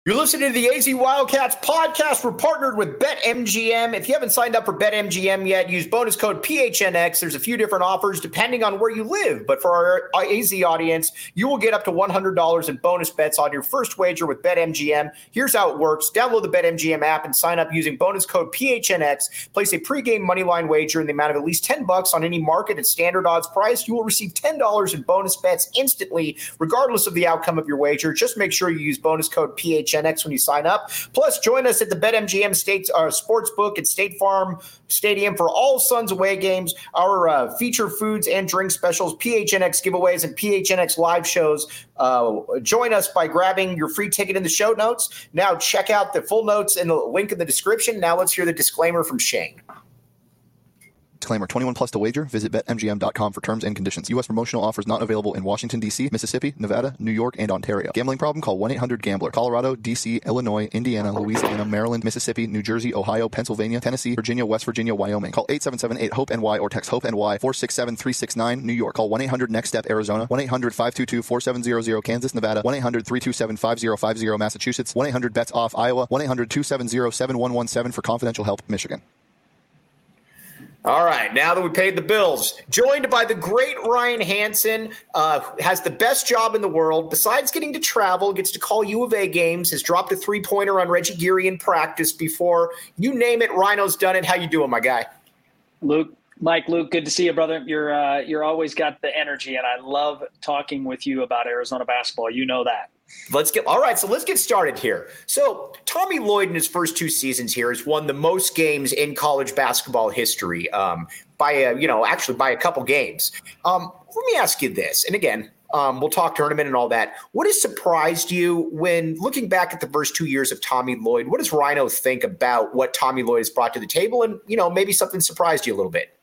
You're listening to the AZ Wildcats podcast. We're partnered with BetMGM. If you haven't signed up for BetMGM yet, use bonus code PHNX. There's a few different offers depending on where you live. But for our AZ audience, you will get up to $100 in bonus bets on your first wager with BetMGM. Here's how it works. Download the BetMGM app and sign up using bonus code PHNX. Place a pregame moneyline wager in the amount of at least $10 on any market at standard odds price. You will receive $10 in bonus bets instantly, regardless of the outcome of your wager. Just make sure you use bonus code PHNX when you sign up. Plus, join us at the BetMGM Sportsbook at State Farm Stadium for all Suns away games, our feature foods and drink specials, PHNX giveaways, and PHNX live shows. Join us by grabbing your free ticket in the show notes. Now, check out the full notes in the link in the description. Now, let's hear the disclaimer from Shane. Disclaimer, 21 plus to wager. Visit BetMGM.com for terms and conditions. U.S. promotional offers not available in Washington, D.C., Mississippi, Nevada, New York, and Ontario. Gambling problem? Call 1-800-GAMBLER. Colorado, D.C., Illinois, Indiana, Louisiana, Maryland, Mississippi, New Jersey, Ohio, Pennsylvania, Tennessee, Virginia, West Virginia, Wyoming. Call 877-8-HOPE-NY or text HOPE-NY 467-369. New York. Call 1-800-NEXT-STEP, Arizona. 1-800-522-4700, Kansas, Nevada. 1-800-327-5050, Massachusetts. 1-800-BETS-OFF, Iowa. 1-800-270-7117 for confidential help, Michigan. All right, now that we paid the bills, joined by the great Ryan Hansen, has the best job in the world. Besides getting to travel, gets to call U of A games, has dropped a three-pointer on Reggie Geary in practice before. You name it, Rhino's done it. How you doing, my guy? Luke, good to see you, brother. You're always got the energy, and I love talking with you about Arizona basketball. You know that. Let's get started here. So Tommy Lloyd in his first two seasons here has won the most games in college basketball history by a couple games. Let me ask you this, and again, we'll talk tournament and all that. What has surprised you when looking back at the first 2 years of Tommy Lloyd? What does Rhino think about what Tommy Lloyd has brought to the table, and maybe something surprised you a little bit?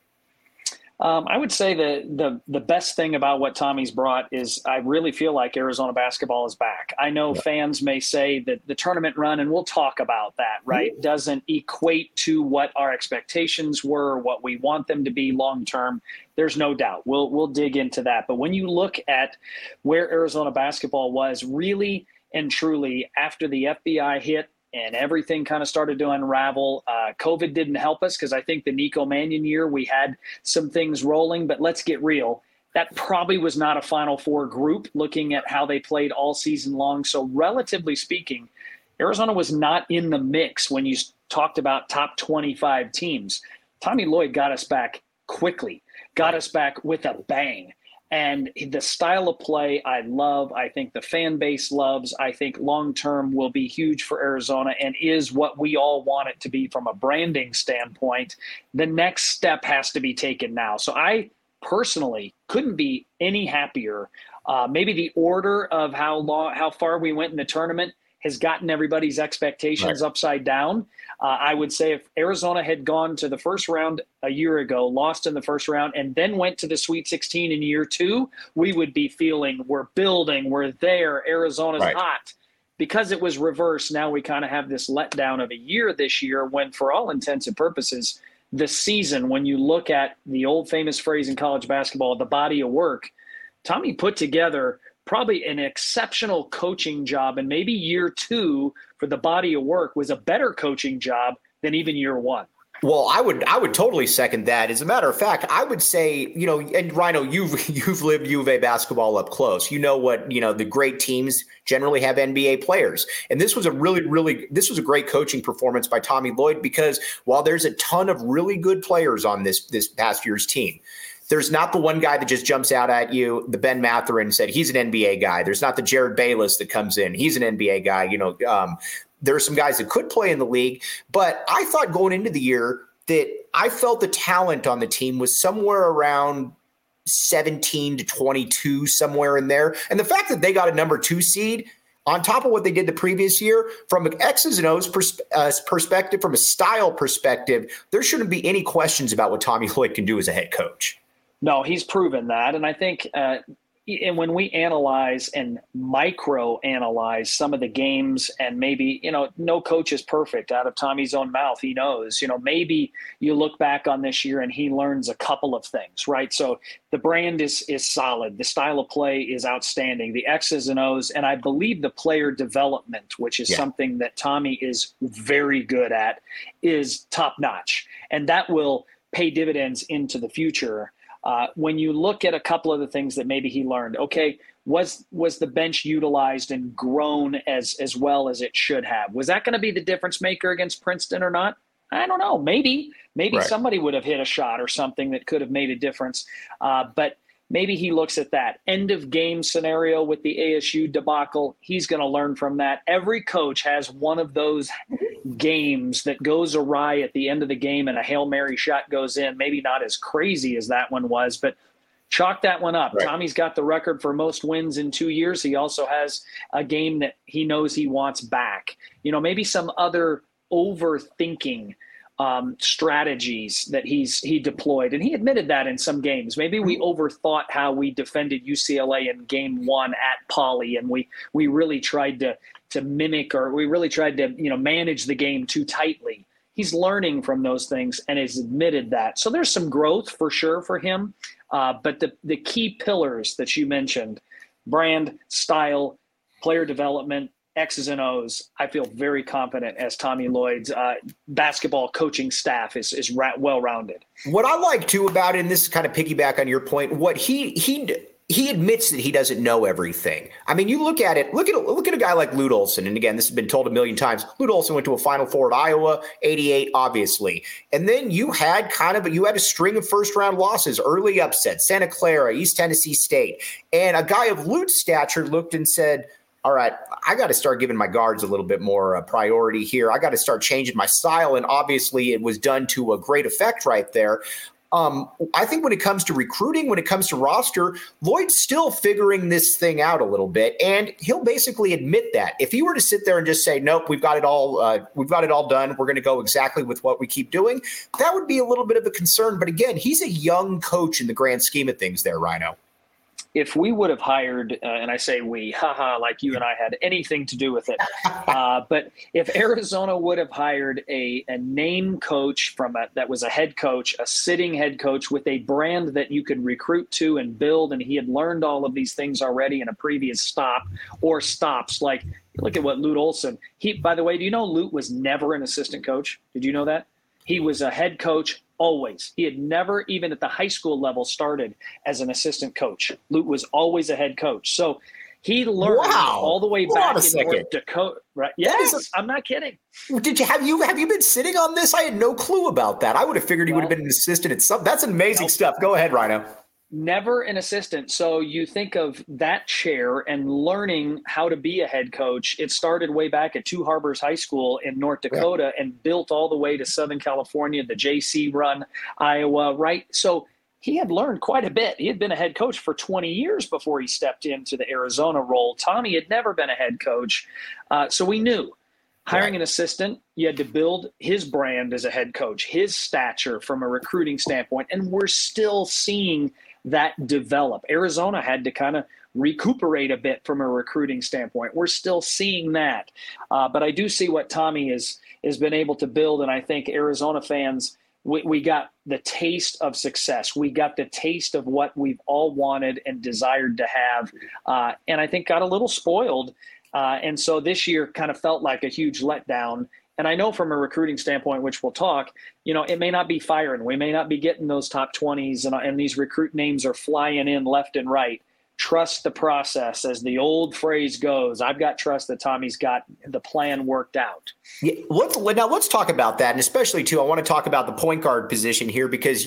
I would say that the best thing about what Tommy's brought is I really feel like Arizona basketball is back. I know fans may say that the tournament run, and we'll talk about that, right, doesn't equate to what our expectations were, what we want them to be long term. There's no doubt. We'll dig into that. But when you look at where Arizona basketball was really and truly after the FBI hit, and everything kind of started to unravel. COVID didn't help us because I think the Nico Mannion year, we had some things rolling. But let's get real. That probably was not a Final Four group looking at how they played all season long. So relatively speaking, Arizona was not in the mix when you talked about top 25 teams. Tommy Lloyd got us back quickly, got us back with a bang. And the style of play I love, I think the fan base loves, I think long-term will be huge for Arizona and is what we all want it to be from a branding standpoint. The next step has to be taken now. So I personally couldn't be any happier. Maybe the order of how far we went in the tournament has gotten everybody's expectations upside down. I would say if Arizona had gone to the first round a year ago, lost in the first round, and then went to the Sweet 16 in year two, we would be feeling we're building, we're there, Arizona's hot. Because it was reversed, now we kind of have this letdown of a year this year when, for all intents and purposes, the season, when you look at the old famous phrase in college basketball, the body of work, Tommy put together probably an exceptional coaching job, and maybe year two for the body of work was a better coaching job than even year one. Well, I would totally second that. As a matter of fact, I would say, and Rhino, you've lived U of A basketball up close. You know what, the great teams generally have NBA players. And this was a a great coaching performance by Tommy Lloyd, because while there's a ton of really good players on this past year's team, there's not the one guy that just jumps out at you. The Ben Mathurin said he's an NBA guy. There's not the Jared Bayless that comes in. He's an NBA guy. There are some guys that could play in the league. But I thought going into the year that I felt the talent on the team was somewhere around 17 to 22, somewhere in there. And the fact that they got a number 2 seed on top of what they did the previous year, from an X's and O's perspective, from a style perspective, there shouldn't be any questions about what Tommy Lloyd can do as a head coach. No, he's proven that. And I think and when we analyze and micro analyze some of the games, and maybe, no coach is perfect. Out of Tommy's own mouth, he knows, maybe you look back on this year and he learns a couple of things, right? So the brand is solid. The style of play is outstanding. The X's and O's, and I believe the player development, which is something that Tommy is very good at, is top notch. And that will pay dividends into the future. When you look at a couple of the things that maybe he learned, okay, was the bench utilized and grown as well as it should have? Was that going to be the difference maker against Princeton or not? I don't know. Maybe somebody would have hit a shot or something that could have made a difference. But maybe he looks at that end of game scenario with the ASU debacle. He's going to learn from that. Every coach has one of those games that goes awry at the end of the game and a Hail Mary shot goes in. Maybe not as crazy as that one was, but chalk that one up. Right. Tommy's got the record for most wins in 2 years. He also has a game that he knows he wants back. Maybe some other overthinking strategies that he deployed. And he admitted that in some games. Maybe we overthought how we defended UCLA in game 1 at Poly, and we really tried to mimic, or we really tried to, manage the game too tightly. He's learning from those things and has admitted that. So there's some growth for sure for him. But the key pillars that you mentioned, brand, style, player development, X's and O's, I feel very confident as Tommy Lloyd's basketball coaching staff is well-rounded. What I like too about it, and this is kind of piggyback on your point, what he admits that he doesn't know everything. I mean, you look at it, look at a guy like Lute Olson. And again, this has been told a million times. Lute Olson went to a Final Four at Iowa, 88, obviously. And then you had a string of first-round losses, early upsets, Santa Clara, East Tennessee State. And a guy of Lute's stature looked and said, all right, I got to start giving my guards a little bit more priority here. I got to start changing my style. And obviously it was done to a great effect right there. I think when it comes to recruiting, when it comes to roster, Lloyd's still figuring this thing out a little bit. And he'll basically admit that. If he were to sit there and just say, nope, we've got it all done, we're going to go exactly with what we keep doing, that would be a little bit of a concern. But again, he's a young coach in the grand scheme of things there, Rhino. If we would have hired, and I say we, like you and I had anything to do with it, but if Arizona would have hired a name coach that was a head coach, a sitting head coach with a brand that you could recruit to and build, and he had learned all of these things already in a previous stop or stops, like look at what Lute Olson. By the way, do you know Lute was never an assistant coach? Did you know that? He was a head coach. Always. He had never, even at the high school level, started as an assistant coach. Lute was always a head coach. So he learned all the way back in North Dakota. Right? Yes, I'm not kidding. Have you been sitting on this? I had no clue about that. I would have figured he would have been an assistant at some. That's amazing stuff. Go ahead, Rhino. Never an assistant. So you think of that chair and learning how to be a head coach. It started way back at Two Harbors High School in North Dakota and built all the way to Southern California, the JC run, Iowa, right? So he had learned quite a bit. He had been a head coach for 20 years before he stepped into the Arizona role. Tommy had never been a head coach. So we knew hiring an assistant, you had to build his brand as a head coach, his stature from a recruiting standpoint. And we're still seeing that develop. Arizona had to kind of recuperate a bit from a recruiting standpoint. We're still seeing that. But I do see what Tommy has been able to build. And I think Arizona fans, we got the taste of success. We got the taste of what we've all wanted and desired to have. And I think got a little spoiled. And so this year kind of felt like a huge letdown. And I know from a recruiting standpoint, which we'll talk, it may not be firing. We may not be getting those top 20s, and these recruit names are flying in left and right. Trust the process, as the old phrase goes. I've got trust that Tommy's got the plan worked out. Yeah, let's talk about that. And especially, too, I want to talk about the point guard position here because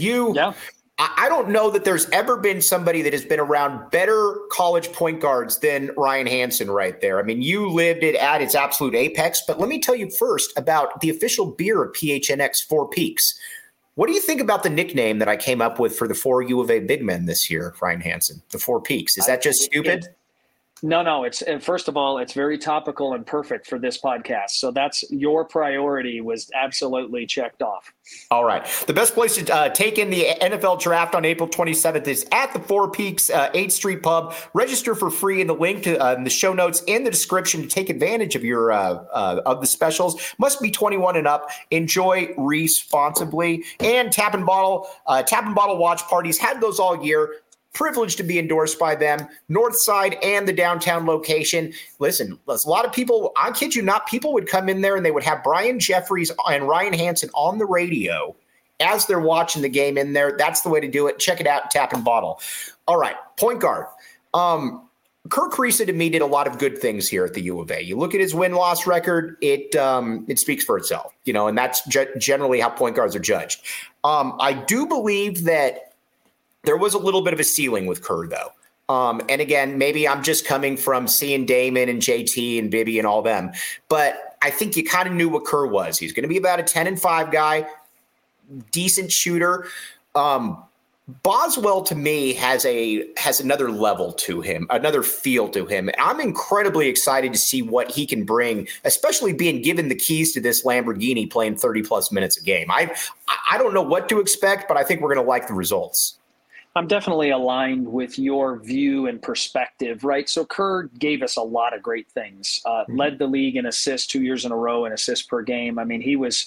I don't know that there's ever been somebody that has been around better college point guards than Ryan Hansen right there. I mean, you lived it at its absolute apex, but let me tell you first about the official beer of PHNX, Four Peaks. What do you think about the nickname that I came up with for the 4 U of A big men this year, Ryan Hansen, the Four Peaks? Is that just stupid? No. It's first of all, it's very topical and perfect for this podcast. So that's your priority was absolutely checked off. All right. The best place to take in the NFL draft on April 27th is at the Four Peaks 8th Street Pub. Register for free in the link to in the show notes in the description to take advantage of your of the specials. Must be 21 and up. Enjoy responsibly. And Tap and Bottle watch parties. Had those all year. Privileged to be endorsed by them, North Side and the downtown location. Listen, a lot of people, I kid you not, people would come in there and they would have Brian Jeffries and Ryan Hansen on the radio as they're watching the game in there. That's the way to do it. Check it out, Tap and Bottle. All right, point guard. Kerr Kriisa to me did a lot of good things here at the U of A. You look at his win-loss record, it speaks for itself, and that's generally how point guards are judged. I do believe that there was a little bit of a ceiling with Kerr, though. And again, maybe I'm just coming from seeing Damon and JT and Bibby and all them. But I think you kind of knew what Kerr was. He's going to be about a 10-5 guy, decent shooter. Boswell, to me, has another level to him, another feel to him. I'm incredibly excited to see what he can bring, especially being given the keys to this Lamborghini playing 30-plus minutes a game. I don't know what to expect, but I think we're going to like the results. I'm definitely aligned with your view and perspective, right? So Kerr gave us a lot of great things. Led the league in assists 2 years in a row in assists per game. I mean, he was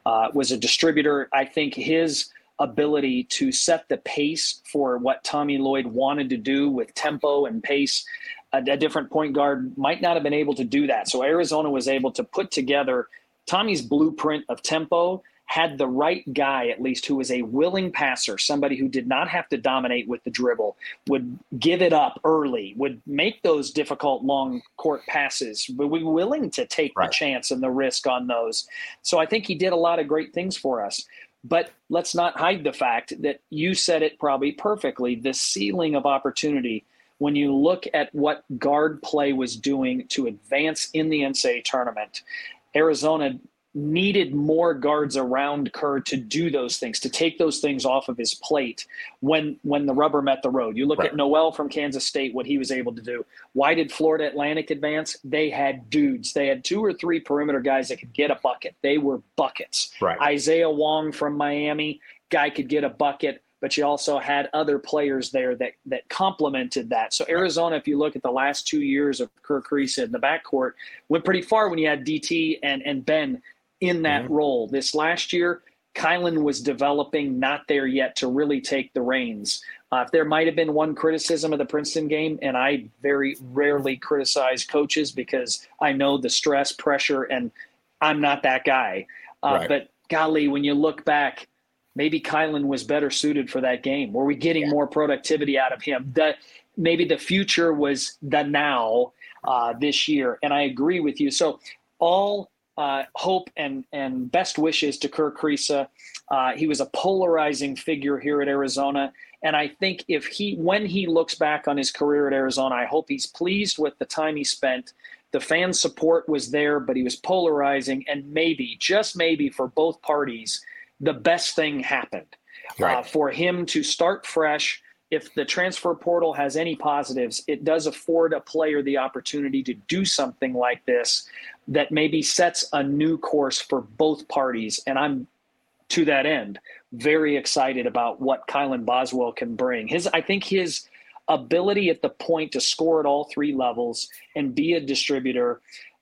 a distributor. I think his ability to set the pace for what Tommy Lloyd wanted to do with tempo and pace, a different point guard might not have been able to do that. So Arizona was able to put together Tommy's blueprint of tempo, had the right guy, at least, who was a willing passer, somebody who did not have to dominate with the dribble, would give it up early, would make those difficult long court passes, but we were willing to take the chance and the risk on those. So I think he did a lot of great things for us. But let's not hide the fact that you said it probably perfectly, the ceiling of opportunity. When you look at what guard play was doing to advance in the NCAA tournament, Arizona needed more guards around Kerr to do those things, to take those things off of his plate when the rubber met the road. You look at Noel from Kansas State, what he was able to do. Why did Florida Atlantic advance? They had dudes. They had 2 or 3 perimeter guys that could get a bucket. They were buckets. Isaiah Wong from Miami, guy could get a bucket, but you also had other players there that complemented that. So Arizona, if you look at the last 2 years of Kerr Kriisa in the backcourt, went pretty far when you had DT and Ben in that role. This last year, Kylan was developing, not there yet to really take the reins. If there might have been one criticism of the Princeton game, and I very rarely criticize coaches because I know the stress, pressure, and I'm not that guy. But golly, when you look back, maybe Kylan was better suited for that game. Were we getting more productivity out of him? Maybe the future was the now this year. And I agree with you. So all hope and best wishes to Kerr Kriisa. He was a polarizing figure here at Arizona. And I think when he looks back on his career at Arizona, I hope he's pleased with the time he spent. The fan support was there, but he was polarizing. And maybe, just maybe for both parties, the best thing happened for him to start fresh. If the transfer portal has any positives, it does afford a player the opportunity to do something like this that maybe sets a new course for both parties. And I'm, to that end, very excited about what Kylan Boswell can bring. I think his ability at the point to score at all 3 levels and be a distributor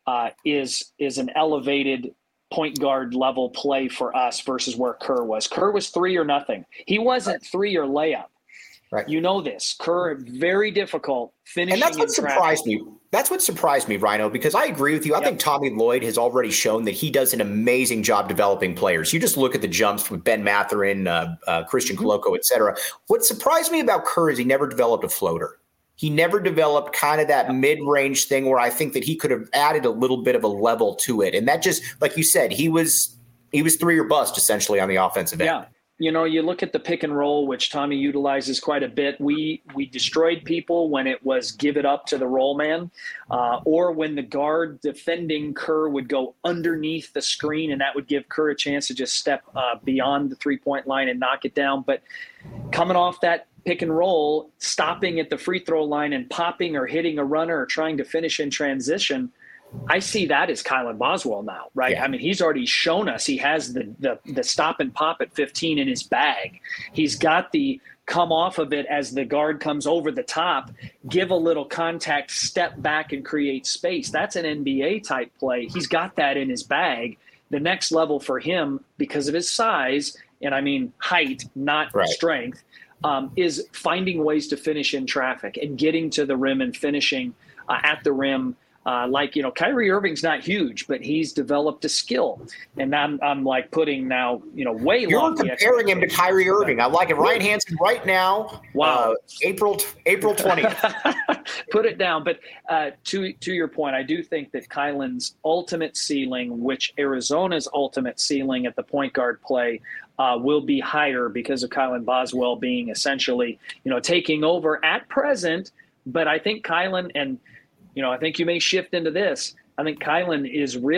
is an elevated point guard level play for us versus where Kerr was. Kerr was 3 or nothing. He wasn't 3 or layup. You know this. Kerr, very difficult finishing. And that's what surprised me. That's what surprised me, Rhino, because I agree with you. I think Tommy Lloyd has already shown that he does an amazing job developing players. You just look at the jumps with Ben Mathurin, Christian Coloco, et cetera. What surprised me about Kerr is he never developed a floater. He never developed kind of that mid-range thing where I think that he could have added a little bit of a level to it. And that just, like you said, he was 3 or bust essentially on the offensive end. You know, you look at the pick and roll, which Tommy utilizes quite a bit. We destroyed people when it was give it up to the roll man, or when the guard defending Kerr would go underneath the screen, and that would give Kerr a chance to just step beyond the 3-point line and knock it down. But coming off that pick and roll, stopping at the free throw line and popping or hitting a runner or trying to finish in transition. I see that as Kylan Boswell now, right? Yeah. I mean, he's already shown us he has the stop and pop at 15 in his bag. He's got the come off of it as the guard comes over the top, give a little contact, step back and create space. That's an NBA type play. He's got that in his bag. The next level for him, because of his size, and I mean height, not strength, is finding ways to finish in traffic and getting to the rim and finishing at the rim. Kyrie Irving's not huge, but he's developed a skill. And I'm like putting now, way You're comparing him to Kyrie Irving. I like it. Ryan Hansen right now. Wow. April 20th. Put it down. But to your point, I do think that Kylan's ultimate ceiling, which Arizona's ultimate ceiling at the point guard play, will be higher because of Kylan Boswell being essentially, taking over at present. But I think Kylan and I think you may shift into this. I think Kylan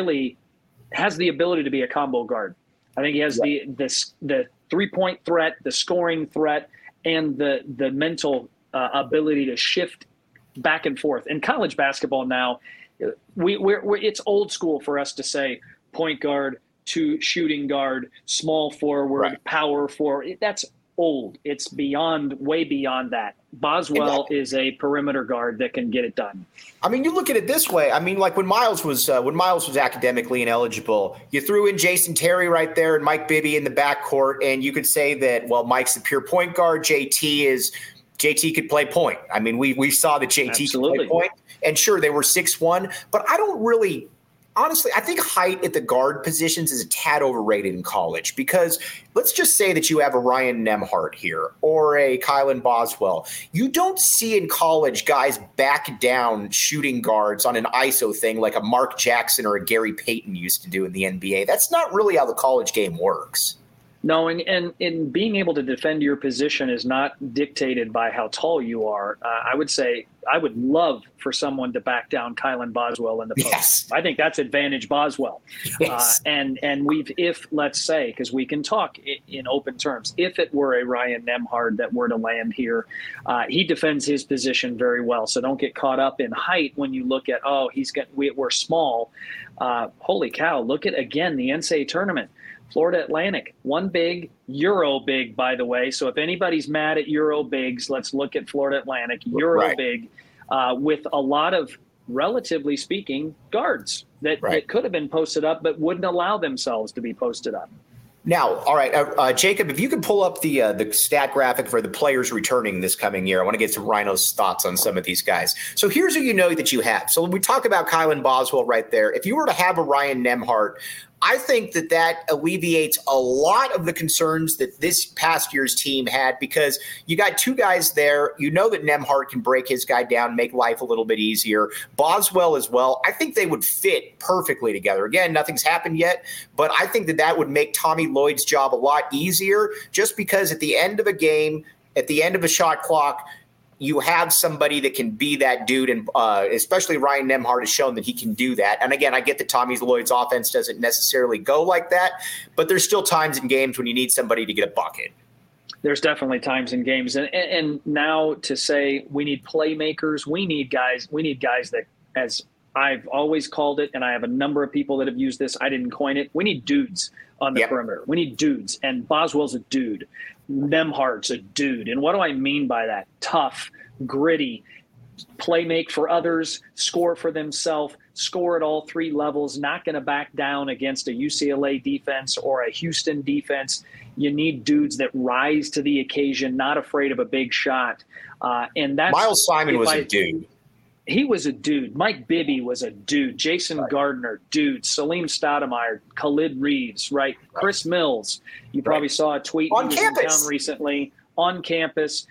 has the ability to be a combo guard. I think he has the 3-point threat, the scoring threat, and the mental ability to shift back and forth. In college basketball now, it's old school for us to say point guard to shooting guard, small forward, power forward. That's old. It's way beyond that. Boswell is a perimeter guard that can get it done. I mean, you look at it this way. I mean, like when Miles was academically ineligible, you threw in Jason Terry right there and Mike Bibby in the backcourt, and you could say that, well, Mike's the pure point guard. JT could play point. I mean, we saw that JT could play point, and sure, they were 6'1", but I don't really. Honestly, I think height at the guard positions is a tad overrated in college because let's just say that you have a Ryan Nembhard here or a Kylan Boswell. You don't see in college guys back down shooting guards on an ISO thing like a Mark Jackson or a Gary Payton used to do in the NBA. That's not really how the college game works. No, and being able to defend your position is not dictated by how tall you are. I would say I would love for someone to back down Kylan Boswell in the post. Yes. I think that's advantage Boswell. Yes. And if let's say, because we can talk in open terms, if it were a Ryan Nembhard that were to land here, he defends his position very well. So don't get caught up in height when you look at, we're small. Holy cow, look at, again, the NCAA tournament. Florida Atlantic, one big, Euro big, by the way. So if anybody's mad at Euro bigs, let's look at Florida Atlantic, Euro big, with a lot of, relatively speaking, guards that could have been posted up but wouldn't allow themselves to be posted up. Now, all right, Jacob, if you could pull up the stat graphic for the players returning this coming year, I want to get some Rhino's thoughts on some of these guys. So here's who you know that you have. So when we talk about Kylan Boswell right there, if you were to have a Ryan Nembhard, I think that alleviates a lot of the concerns that this past year's team had because you got two guys there. You know that Nembhard can break his guy down, make life a little bit easier. Boswell as well. I think they would fit perfectly together. Again, nothing's happened yet, but I think that would make Tommy Lloyd's job a lot easier just because at the end of a game, at the end of a shot clock, you have somebody that can be that dude, and especially Ryan Nembhard has shown that he can do that. And again, I get that Tommy Lloyd's offense doesn't necessarily go like that, but there's still times in games when you need somebody to get a bucket. There's definitely times in games, and now to say we need playmakers, we need guys that, as I've always called it, and I have a number of people that have used this. I didn't coin it. We need dudes on the perimeter. We need dudes, and Boswell's a dude. Nembhard's a dude. And what do I mean by that? Tough, gritty, play make for others, score for themselves, score at all three levels, not going to back down against a UCLA defense or a Houston defense. You need dudes that rise to the occasion, not afraid of a big shot. And that's Miles Simon was a dude. He was a dude. Mike Bibby was a dude. Jason Gardner, dude. Salim Stoudemire, Khalid Reeves, right? Chris Mills. You probably saw a tweet. On he campus. was in town recently. On campus.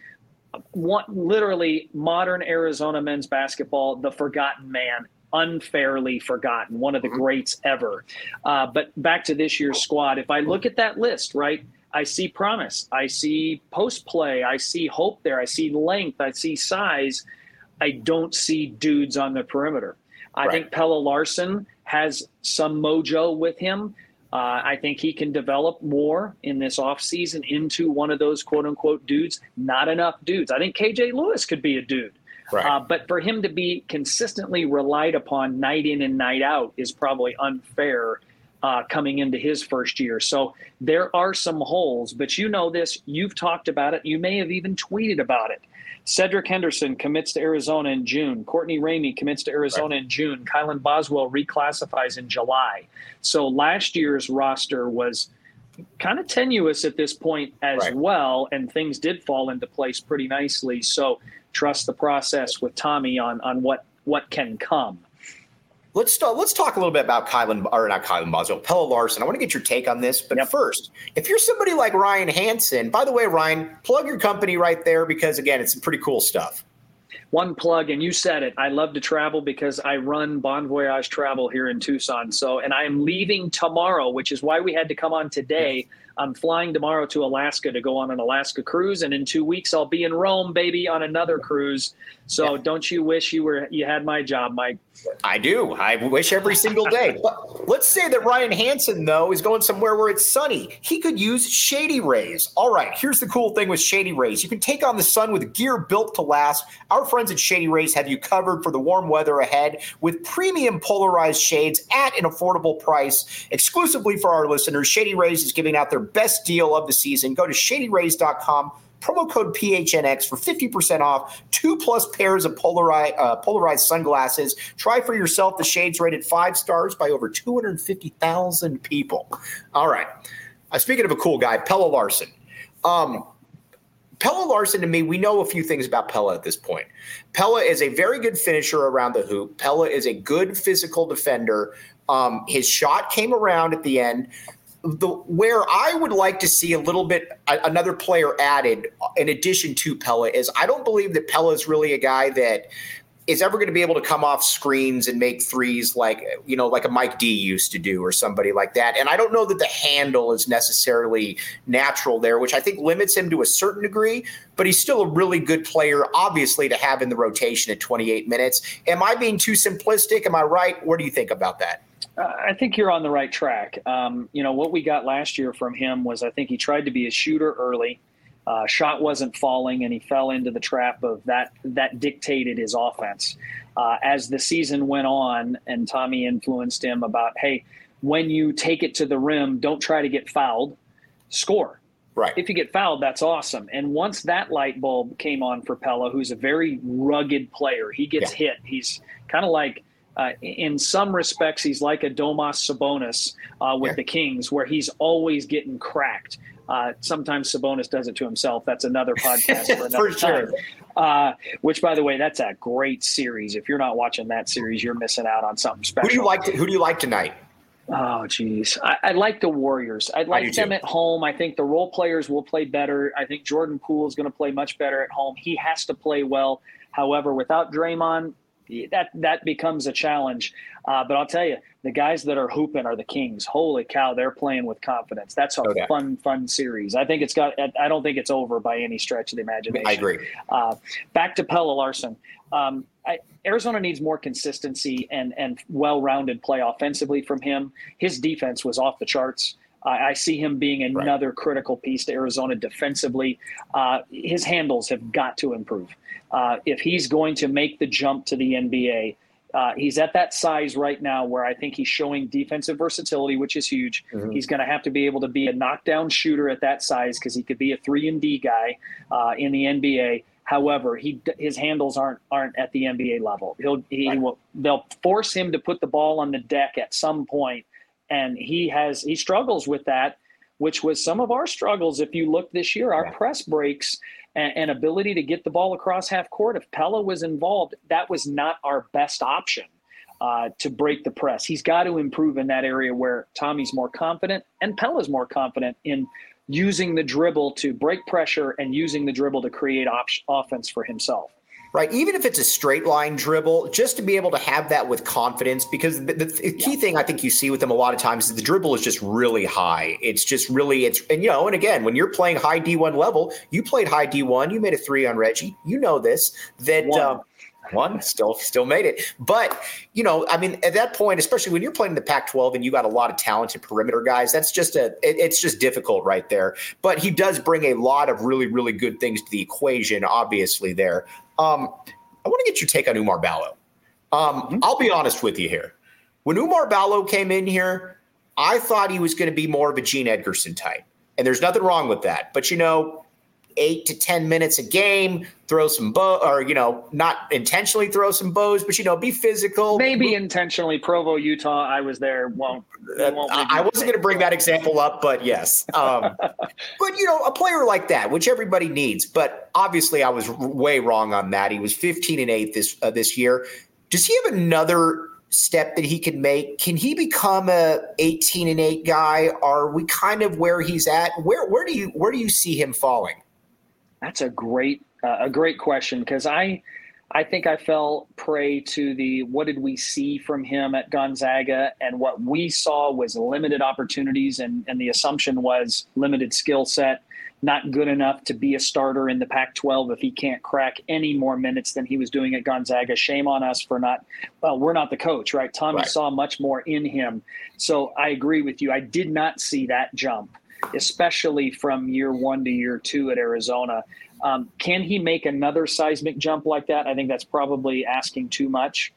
Literally modern Arizona men's basketball, the forgotten man, unfairly forgotten, one of the greats ever. But back to this year's squad. If I look at that list, right, I see promise. I see post play. I see hope there. I see length. I see size. I don't see dudes on the perimeter. I think Pelle Larsson has some mojo with him. I think he can develop more in this offseason into one of those quote-unquote dudes. Not enough dudes. I think KJ Lewis could be a dude. Right. But for him to be consistently relied upon night in and night out is probably unfair coming into his first year. So there are some holes, but you know this. You've talked about it. You may have even tweeted about it. Cedric Henderson commits to Arizona in June. Courtney Ramey commits to Arizona in June. Kylan Boswell reclassifies in July. So last year's roster was kind of tenuous at this point as well, and things did fall into place pretty nicely. So trust the process with Tommy on what can come. Let's talk a little bit about Pelle Larsson. I want to get your take on this. But first, if you're somebody like Ryan Hansen, by the way, Ryan, plug your company right there because, again, it's some pretty cool stuff. One plug, and you said it. I love to travel because I run Bon Voyage Travel here in Tucson. And I am leaving tomorrow, which is why we had to come on today. I'm flying tomorrow to Alaska to go on an Alaska cruise, and in 2 weeks I'll be in Rome, baby, on another cruise. So don't you wish you had my job, Mike? I do. I wish every single day. But let's say that Ryan Hansen, though, is going somewhere where it's sunny. He could use Shady Rays. All right, here's the cool thing with Shady Rays. You can take on the sun with gear built to last. Our friends at Shady Rays have you covered for the warm weather ahead with premium polarized shades at an affordable price. Exclusively for our listeners, Shady Rays is giving out their best deal of the season. Go to shadyrays.com. Promo code PHNX for 50% off, 2+ pairs of polarized sunglasses. Try for yourself the shades rated 5 stars by over 250,000 people. All right. Speaking of a cool guy, Pelle Larsson. Pelle Larsson, to me, we know a few things about Pelle at this point. Pelle is a very good finisher around the hoop. Pelle is a good physical defender. His shot came around at the end. Where I would like to see a little bit another player added in addition to Pelle is I don't believe that Pelle is really a guy that is ever going to be able to come off screens and make threes like a Mike D used to do or somebody like that. And I don't know that the handle is necessarily natural there, which I think limits him to a certain degree, but he's still a really good player, obviously, to have in the rotation at 28 minutes. Am I being too simplistic? Am I right? What do you think about that? I think you're on the right track. What we got last year from him was I think he tried to be a shooter early. Shot wasn't falling, and he fell into the trap of that dictated his offense. As the season went on and Tommy influenced him about, hey, when you take it to the rim, don't try to get fouled, score. Right. If you get fouled, that's awesome. And once that light bulb came on for Pelle, who's a very rugged player, he gets hit. He's kind of like, in some respects, he's like a Domas Sabonis with the Kings, where he's always getting cracked. Sometimes Sabonis does it to himself. That's another podcast for another time. Which, by the way, that's a great series. If you're not watching that series, you're missing out on something special. Who do you like tonight? Oh, geez. I like the Warriors. I'd like them at home. I think the role players will play better. I think Jordan Poole is going to play much better at home. He has to play well. However, without Draymond, that becomes a challenge. But I'll tell you, the guys that are hooping are the Kings. Holy cow, they're playing with confidence. That's a fun series. I don't think it's over by any stretch of the imagination. I agree. Back to Pelle Larsson. Arizona needs more consistency and well-rounded play offensively from him. His defense was off the charts. I see him being another critical piece to Arizona defensively. His handles have got to improve. If he's going to make the jump to the NBA, he's at that size right now where I think he's showing defensive versatility, which is huge. Mm-hmm. He's going to have to be able to be a knockdown shooter at that size because he could be a 3-and-D guy in the NBA. However, his handles aren't at the NBA level. They'll force him to put the ball on the deck at some point, and he struggles with that, which was some of our struggles. If you look this year, our press breaks and ability to get the ball across half court. If Pelle was involved, that was not our best option to break the press. He's got to improve in that area where Tommy's more confident and Pelle's more confident in using the dribble to break pressure and using the dribble to create offense for himself. Right. Even if it's a straight line dribble, just to be able to have that with confidence, because the key thing I think you see with them a lot of times is the dribble is just really high. And again, when you're playing high D1 level, you played high D1, you made a 3 on Reggie. You know this, that One still made it. But, I mean, at that point, especially when you're playing the Pac-12 and you got a lot of talented perimeter guys, that's just it's just difficult right there. But he does bring a lot of really, really good things to the equation, obviously, there. I want to get your take on Oumar Ballo. I'll be honest with you here. When Oumar Ballo came in here, I thought he was going to be more of a Gene Edgerson type. And there's nothing wrong with that. But, 8 to 10 minutes a game, throw some not intentionally throw some bows, but, be physical. Maybe intentionally. Provo, Utah, I was there. I wasn't going to bring that example up, but yes. But, a player like that, which everybody needs. But obviously I was way wrong on that. He was 15-8 this year. Does he have another step that he can make? Can he become a 18-8 guy? Are we kind of where he's at? Where do you see him falling? That's a great question, because I think I fell prey to the what did we see from him at Gonzaga, and what we saw was limited opportunities, and the assumption was limited skill set, not good enough to be a starter in the Pac-12 if he can't crack any more minutes than he was doing at Gonzaga. Shame on us for we're not the coach, right? Tommy saw much more in him. So I agree with you. I did not see that jump, especially from year 1 to year 2 at Arizona. Can he make another seismic jump like that? I think that's probably asking too much.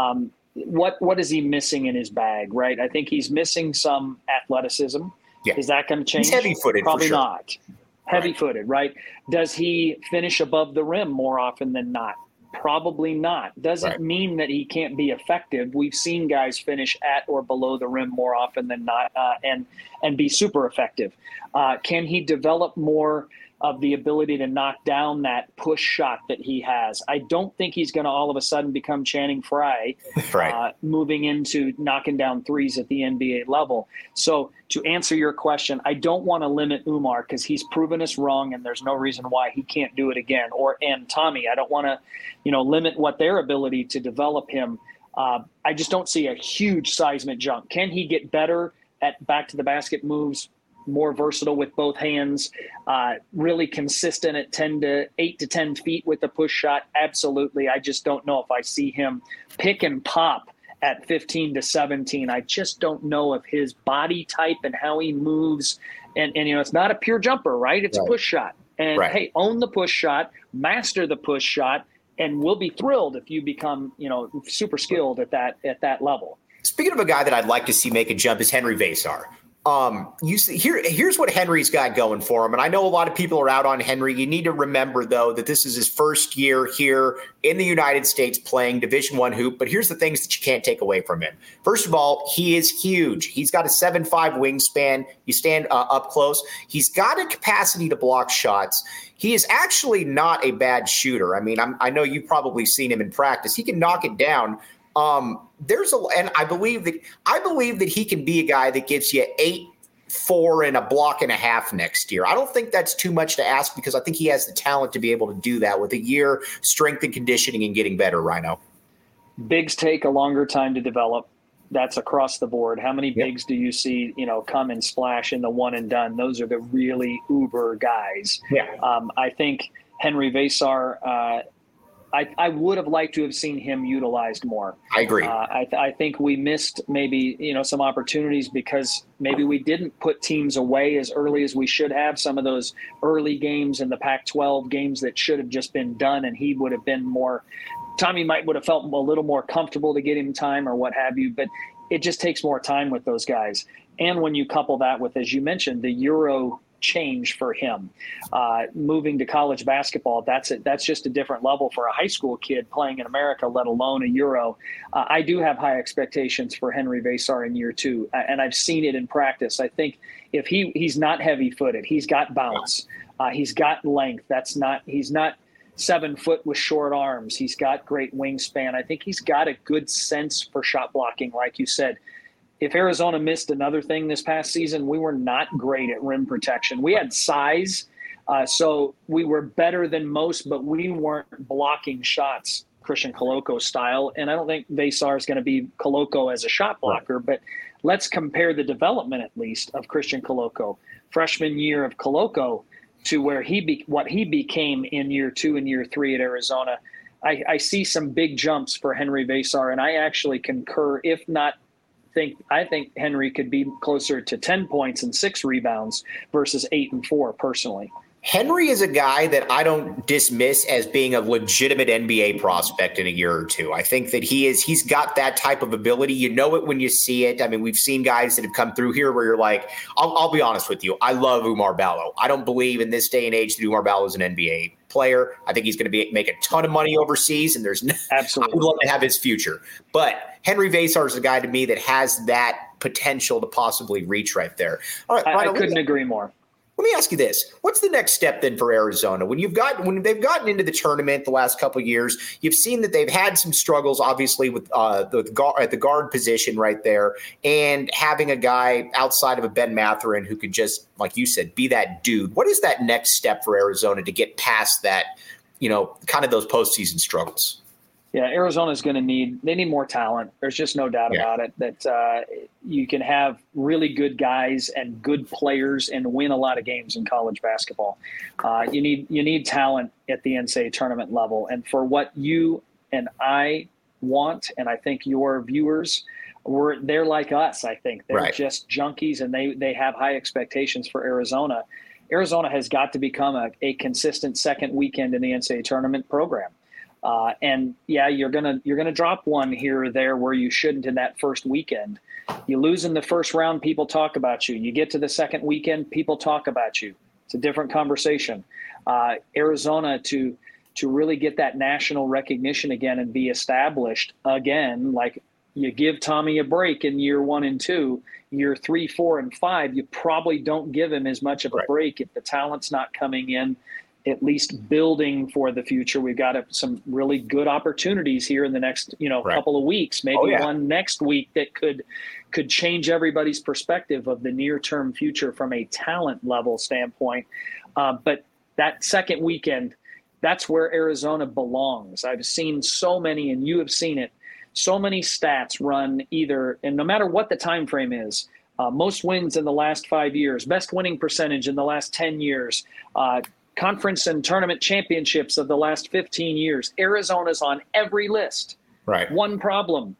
What is he missing in his bag, right? I think he's missing some athleticism. Yeah. Is that going to change? He's heavy-footed, probably for sure. Not. Heavy-footed, right? Does he finish above the rim more often than not? Probably not. Doesn't mean that he can't be effective. We've seen guys finish at or below the rim more often than not, and be super effective. Can he develop more of the ability to knock down that push shot that he has? I don't think he's going to all of a sudden become Channing Frye, moving into knocking down threes at the NBA level. So to answer your question, I don't want to limit Oumar because he's proven us wrong, and there's no reason why he can't do it again. And Tommy, I don't want to, limit what their ability to develop him. I just don't see a huge seismic jump. Can he get better at back to the basket moves? More versatile with both hands, really consistent at 8 to 10 feet with the push shot? Absolutely. I just don't know if I see him pick and pop at 15 to 17. I just don't know if his body type and how he moves. And it's not a pure jumper, right? It's a push shot. And hey, own the push shot, master the push shot, and we'll be thrilled if you become, super skilled at that level. Speaking of a guy that I'd like to see make a jump is Henry Versar. Here's what Henry's got going for him. And I know a lot of people are out on Henry. You need to remember, though, that this is his first year here in the United States playing Division I hoop. But here's the things that you can't take away from him. First of all, he is huge. He's got a 7'5" wingspan. You stand up close. He's got a capacity to block shots. He is actually not a bad shooter. I mean, I know you've probably seen him in practice. He can knock it down. And I believe that he can be a guy that gives you 8, 4, and a block and a half next year. I don't think that's too much to ask because I think he has the talent to be able to do that with a year, strength and conditioning, and getting better, Rhino. Bigs take a longer time to develop. That's across the board. How many bigs do you see, come and splash in the one and done? Those are the really uber guys. Yeah. I think Henry Versar, I would have liked to have seen him utilized more. I agree. I think we missed maybe, some opportunities because maybe we didn't put teams away as early as we should have. Some of those early games in the Pac-12 games that should have just been done, and he would have been more – Tommy would have felt a little more comfortable to get him time or what have you, but it just takes more time with those guys. And when you couple that with, as you mentioned, the Euro change for him, moving to college basketball, that's just a different level for a high school kid playing in America, let alone a Euro. I do have high expectations for Henry Versar in year 2, and I've seen it in practice. I think if he's not heavy-footed, he's got bounce, he's got length. He's not 7 foot with short arms. He's got great wingspan. I think he's got a good sense for shot blocking, like you said. If Arizona missed another thing this past season, we were not great at rim protection. We had size, so we were better than most, but we weren't blocking shots Christian Koloko style. And I don't think Versar is going to be Koloko as a shot blocker, but let's compare the development, at least, of Christian Koloko. Freshman year of Koloko to where what he became in year 2 and year 3 at Arizona. I see some big jumps for Henry Versar, and I actually concur, if not I think Henry could be closer to 10 points and 6 rebounds versus 8 and 4 personally. Henry is a guy that I don't dismiss as being a legitimate NBA prospect in a year or two. I think that he's got that type of ability. You know it when you see it. I mean, we've seen guys that have come through here where you're like, I'll be honest with you. I love Oumar Ballo. I don't believe in this day and age that Oumar Ballo is an NBA player. I think he's going to make a ton of money overseas, and absolutely, I would love to have his future. But Henry Versar is a guy to me that has that potential to possibly reach right there. All right, I couldn't agree more. Let me ask you this. What's the next step then for Arizona? When they've gotten into the tournament the last couple of years, you've seen that they've had some struggles, obviously, with at the guard position right there, and having a guy outside of a Ben Mathurin who could just, like you said, be that dude. What is that next step for Arizona to get past that, kind of those postseason struggles? Yeah, Arizona's going to need more talent. There's just no doubt about it that you can have really good guys and good players and win a lot of games in college basketball. You need talent at the NCAA tournament level. And for what you and I want, and I think your viewers, they're like us, I think. They're just junkies, and they have high expectations for Arizona. Arizona has got to become a consistent second weekend in the NCAA tournament program. You're gonna drop one here or there where you shouldn't in that first weekend. You lose in the first round, people talk about you. You get to the second weekend, people talk about you. It's a different conversation. Arizona to really get that national recognition again and be established again, like you give Tommy a break in year 1 and 2, year 3, 4, and 5, you probably don't give him as much of a break if the talent's not coming in. At least building for the future. We've got some really good opportunities here in the next, couple of weeks, maybe one next week that could change everybody's perspective of the near-term future from a talent level standpoint. But that second weekend, that's where Arizona belongs. I've seen so many, and you have seen it, so many stats run either, and no matter what the time frame is, most wins in the last 5 years, best winning percentage in the last 10 years, conference and tournament championships of the last 15 years. Arizona's on every list. Right. One problem.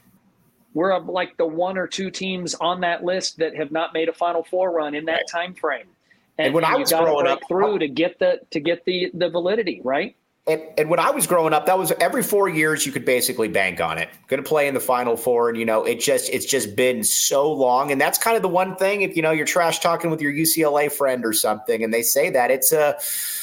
We're like the 1 or 2 teams on that list that have not made a Final Four run in that time frame. And when I was growing up, through to get the validity, right? And when I was growing up, that was every 4 years you could basically bank on it. Going to play in the Final Four, and it's just been so long. And that's kind of the one thing. If you're trash talking with your UCLA friend or something, and they say that it's a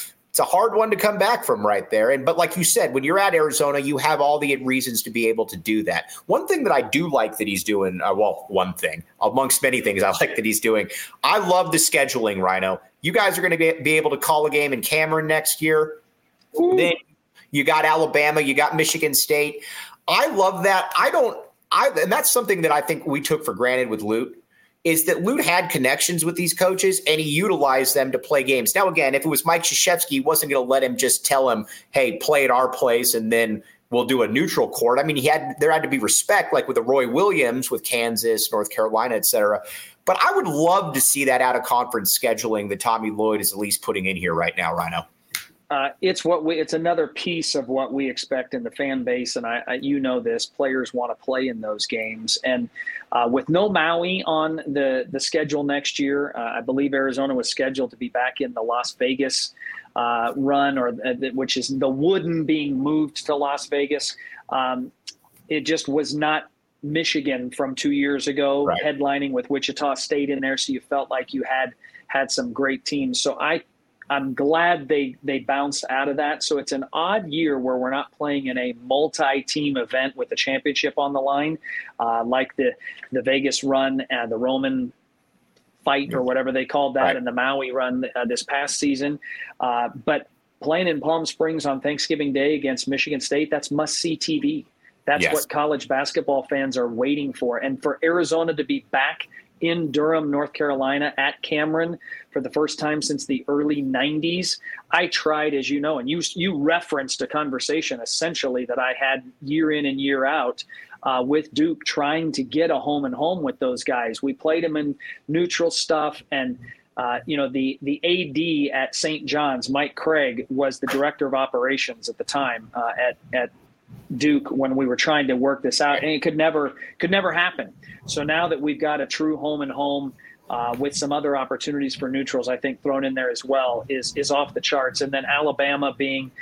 hard one to come back from right there. But like you said, when you're at Arizona, you have all the reasons to be able to do that. One thing that I do like that he's doing, one thing amongst many things I like that he's doing, I love the scheduling, Rhino. You guys are going to be able to call a game in Cameron next year. Ooh. Then you got Alabama, you got Michigan State. I love that. And that's something that I think we took for granted with Lute, is that Lute had connections with these coaches and he utilized them to play games. Now, again, if it was Mike Krzyzewski, he wasn't going to let him just tell him, hey, play at our place and then we'll do a neutral court. I mean, there had to be respect, like with the Roy Williams with Kansas, North Carolina, et cetera. But I would love to see that out of conference scheduling that Tommy Lloyd is at least putting in here right now, Rhino. It's another piece of what we expect in the fan base, and this players want to play in those games. And with no Maui on the schedule next year, I believe Arizona was scheduled to be back in the Las Vegas run, which is the Wooden being moved to Las Vegas. It just was not Michigan from 2 years ago, right, headlining with Wichita State in there, so you felt like you had some great teams. So I'm glad they bounced out of that. So it's an odd year where we're not playing in a multi-team event with a championship on the line, like the Vegas run and the Roman fight or whatever they called that, right, and the Maui run this past season. But playing in Palm Springs on Thanksgiving Day against Michigan State, that's must-see TV. That's what college basketball fans are waiting for. And for Arizona to be back in Durham, North Carolina at Cameron for the first time since the early 90s. I tried, as you know, and you referenced a conversation essentially that I had year in and year out with Duke, trying to get a home and home with those guys. We played them in neutral stuff, and The AD at St. John's, Mike Craig, was the director of operations at the time at Duke when we were trying to work this out, and it could never happen. So now that we've got a true home and home with some other opportunities for neutrals, I think thrown in there as well, is off the charts. And then Alabama being,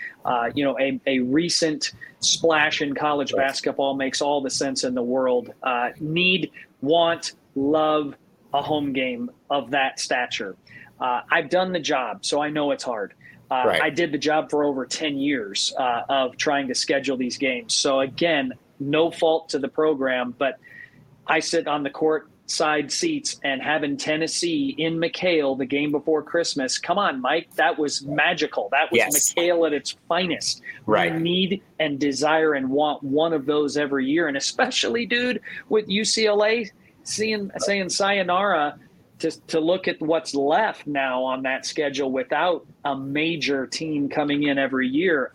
a recent splash in college basketball makes all the sense in the world. Need, want, love a home game of that stature. I've done the job, so I know it's hard. I did the job for over 10 years of trying to schedule these games. So again, no fault to the program, but I sit on the court side seats, and having Tennessee in McHale the game before Christmas. Come on, Mike. That was magical. That was McHale at its finest. Right. We need and desire and want one of those every year. And especially, dude, with UCLA saying sayonara to look at what's left now on that schedule without a major team coming in every year.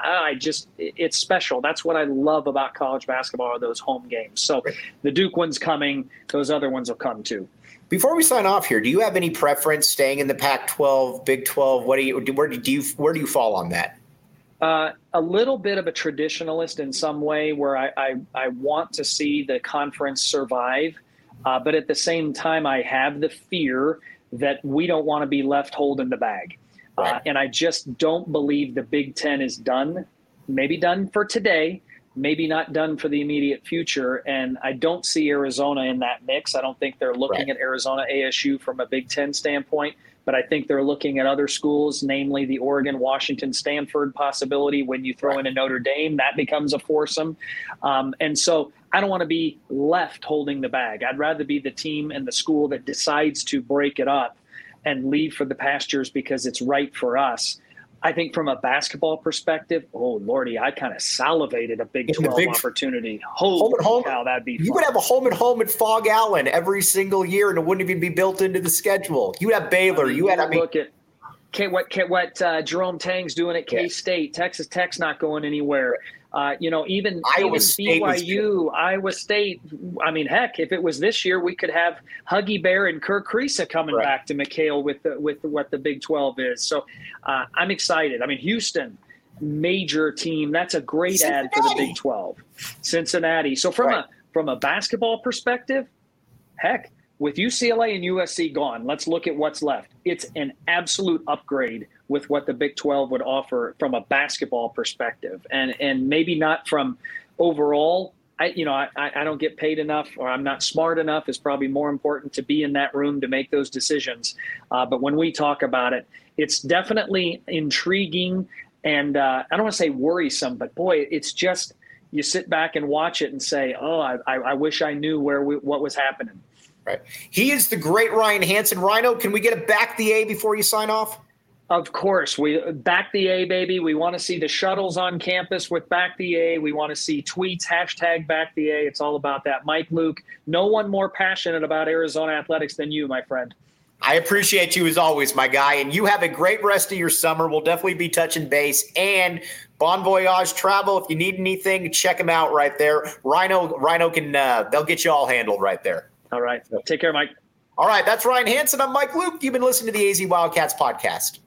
It's special. That's what I love about college basketball, are those home games. So the Duke one's coming. Those other ones will come too. Before we sign off here, do you have any preference staying in the Pac-12, Big 12? Where do you fall on that? A little bit of a traditionalist in some way, where I want to see the conference survive. But at the same time, I have the fear that we don't want to be left holding the bag. And I just don't believe the Big Ten is done. Maybe done for today, maybe not done for the immediate future. And I don't see Arizona in that mix. I don't think they're looking at Arizona ASU from a Big Ten standpoint, but I think they're looking at other schools, namely the Oregon, Washington, Stanford possibility. When you throw in a Notre Dame, that becomes a foursome. And so I don't want to be left holding the bag. I'd rather be the team and the school that decides to break it up and leave for the pastures because it's right for us. I think from a basketball perspective, oh, Lordy, I kind of salivated a Big 12 opportunity. Holy cow, that'd be fun. You would have a home and home at Fog Allen every single year, and it wouldn't even be built into the schedule. You would have Baylor. Look at what Jerome Tang's doing at K-State. Texas Tech's not going anywhere. Even BYU, Iowa State. I mean, heck, if it was this year, we could have Huggy Bear and Kirk Kriisa coming back to McHale with what the Big 12 is. So I'm excited. I mean, Houston, major team. That's a great add for the Big 12. Cincinnati. So from a basketball perspective, heck, with UCLA and USC gone, let's look at what's left. It's an absolute upgrade with what the Big 12 would offer from a basketball perspective, and maybe not from overall. I don't get paid enough, or I'm not smart enough, is probably more important to be in that room to make those decisions. But when we talk about it, it's definitely intriguing, and I don't want to say worrisome, but boy, it's just, you sit back and watch it and say, oh, I wish I knew what was happening. Right. He is the great Ryan Hansen. Rhino, can we get a back the A before you sign off? Of course. We back the A, baby. We want to see the shuttles on campus with back the A. We want to see tweets, hashtag back the A. It's all about that. Mike Luke, no one more passionate about Arizona athletics than you, my friend. I appreciate you as always, my guy. And you have a great rest of your summer. We'll definitely be touching base. And Bon Voyage Travel, if you need anything, check them out right there. Rhino can they'll get you all handled right there. All right. Take care, Mike. All right. That's Ryan Hansen. I'm Mike Luke. You've been listening to the AZ Wildcats podcast.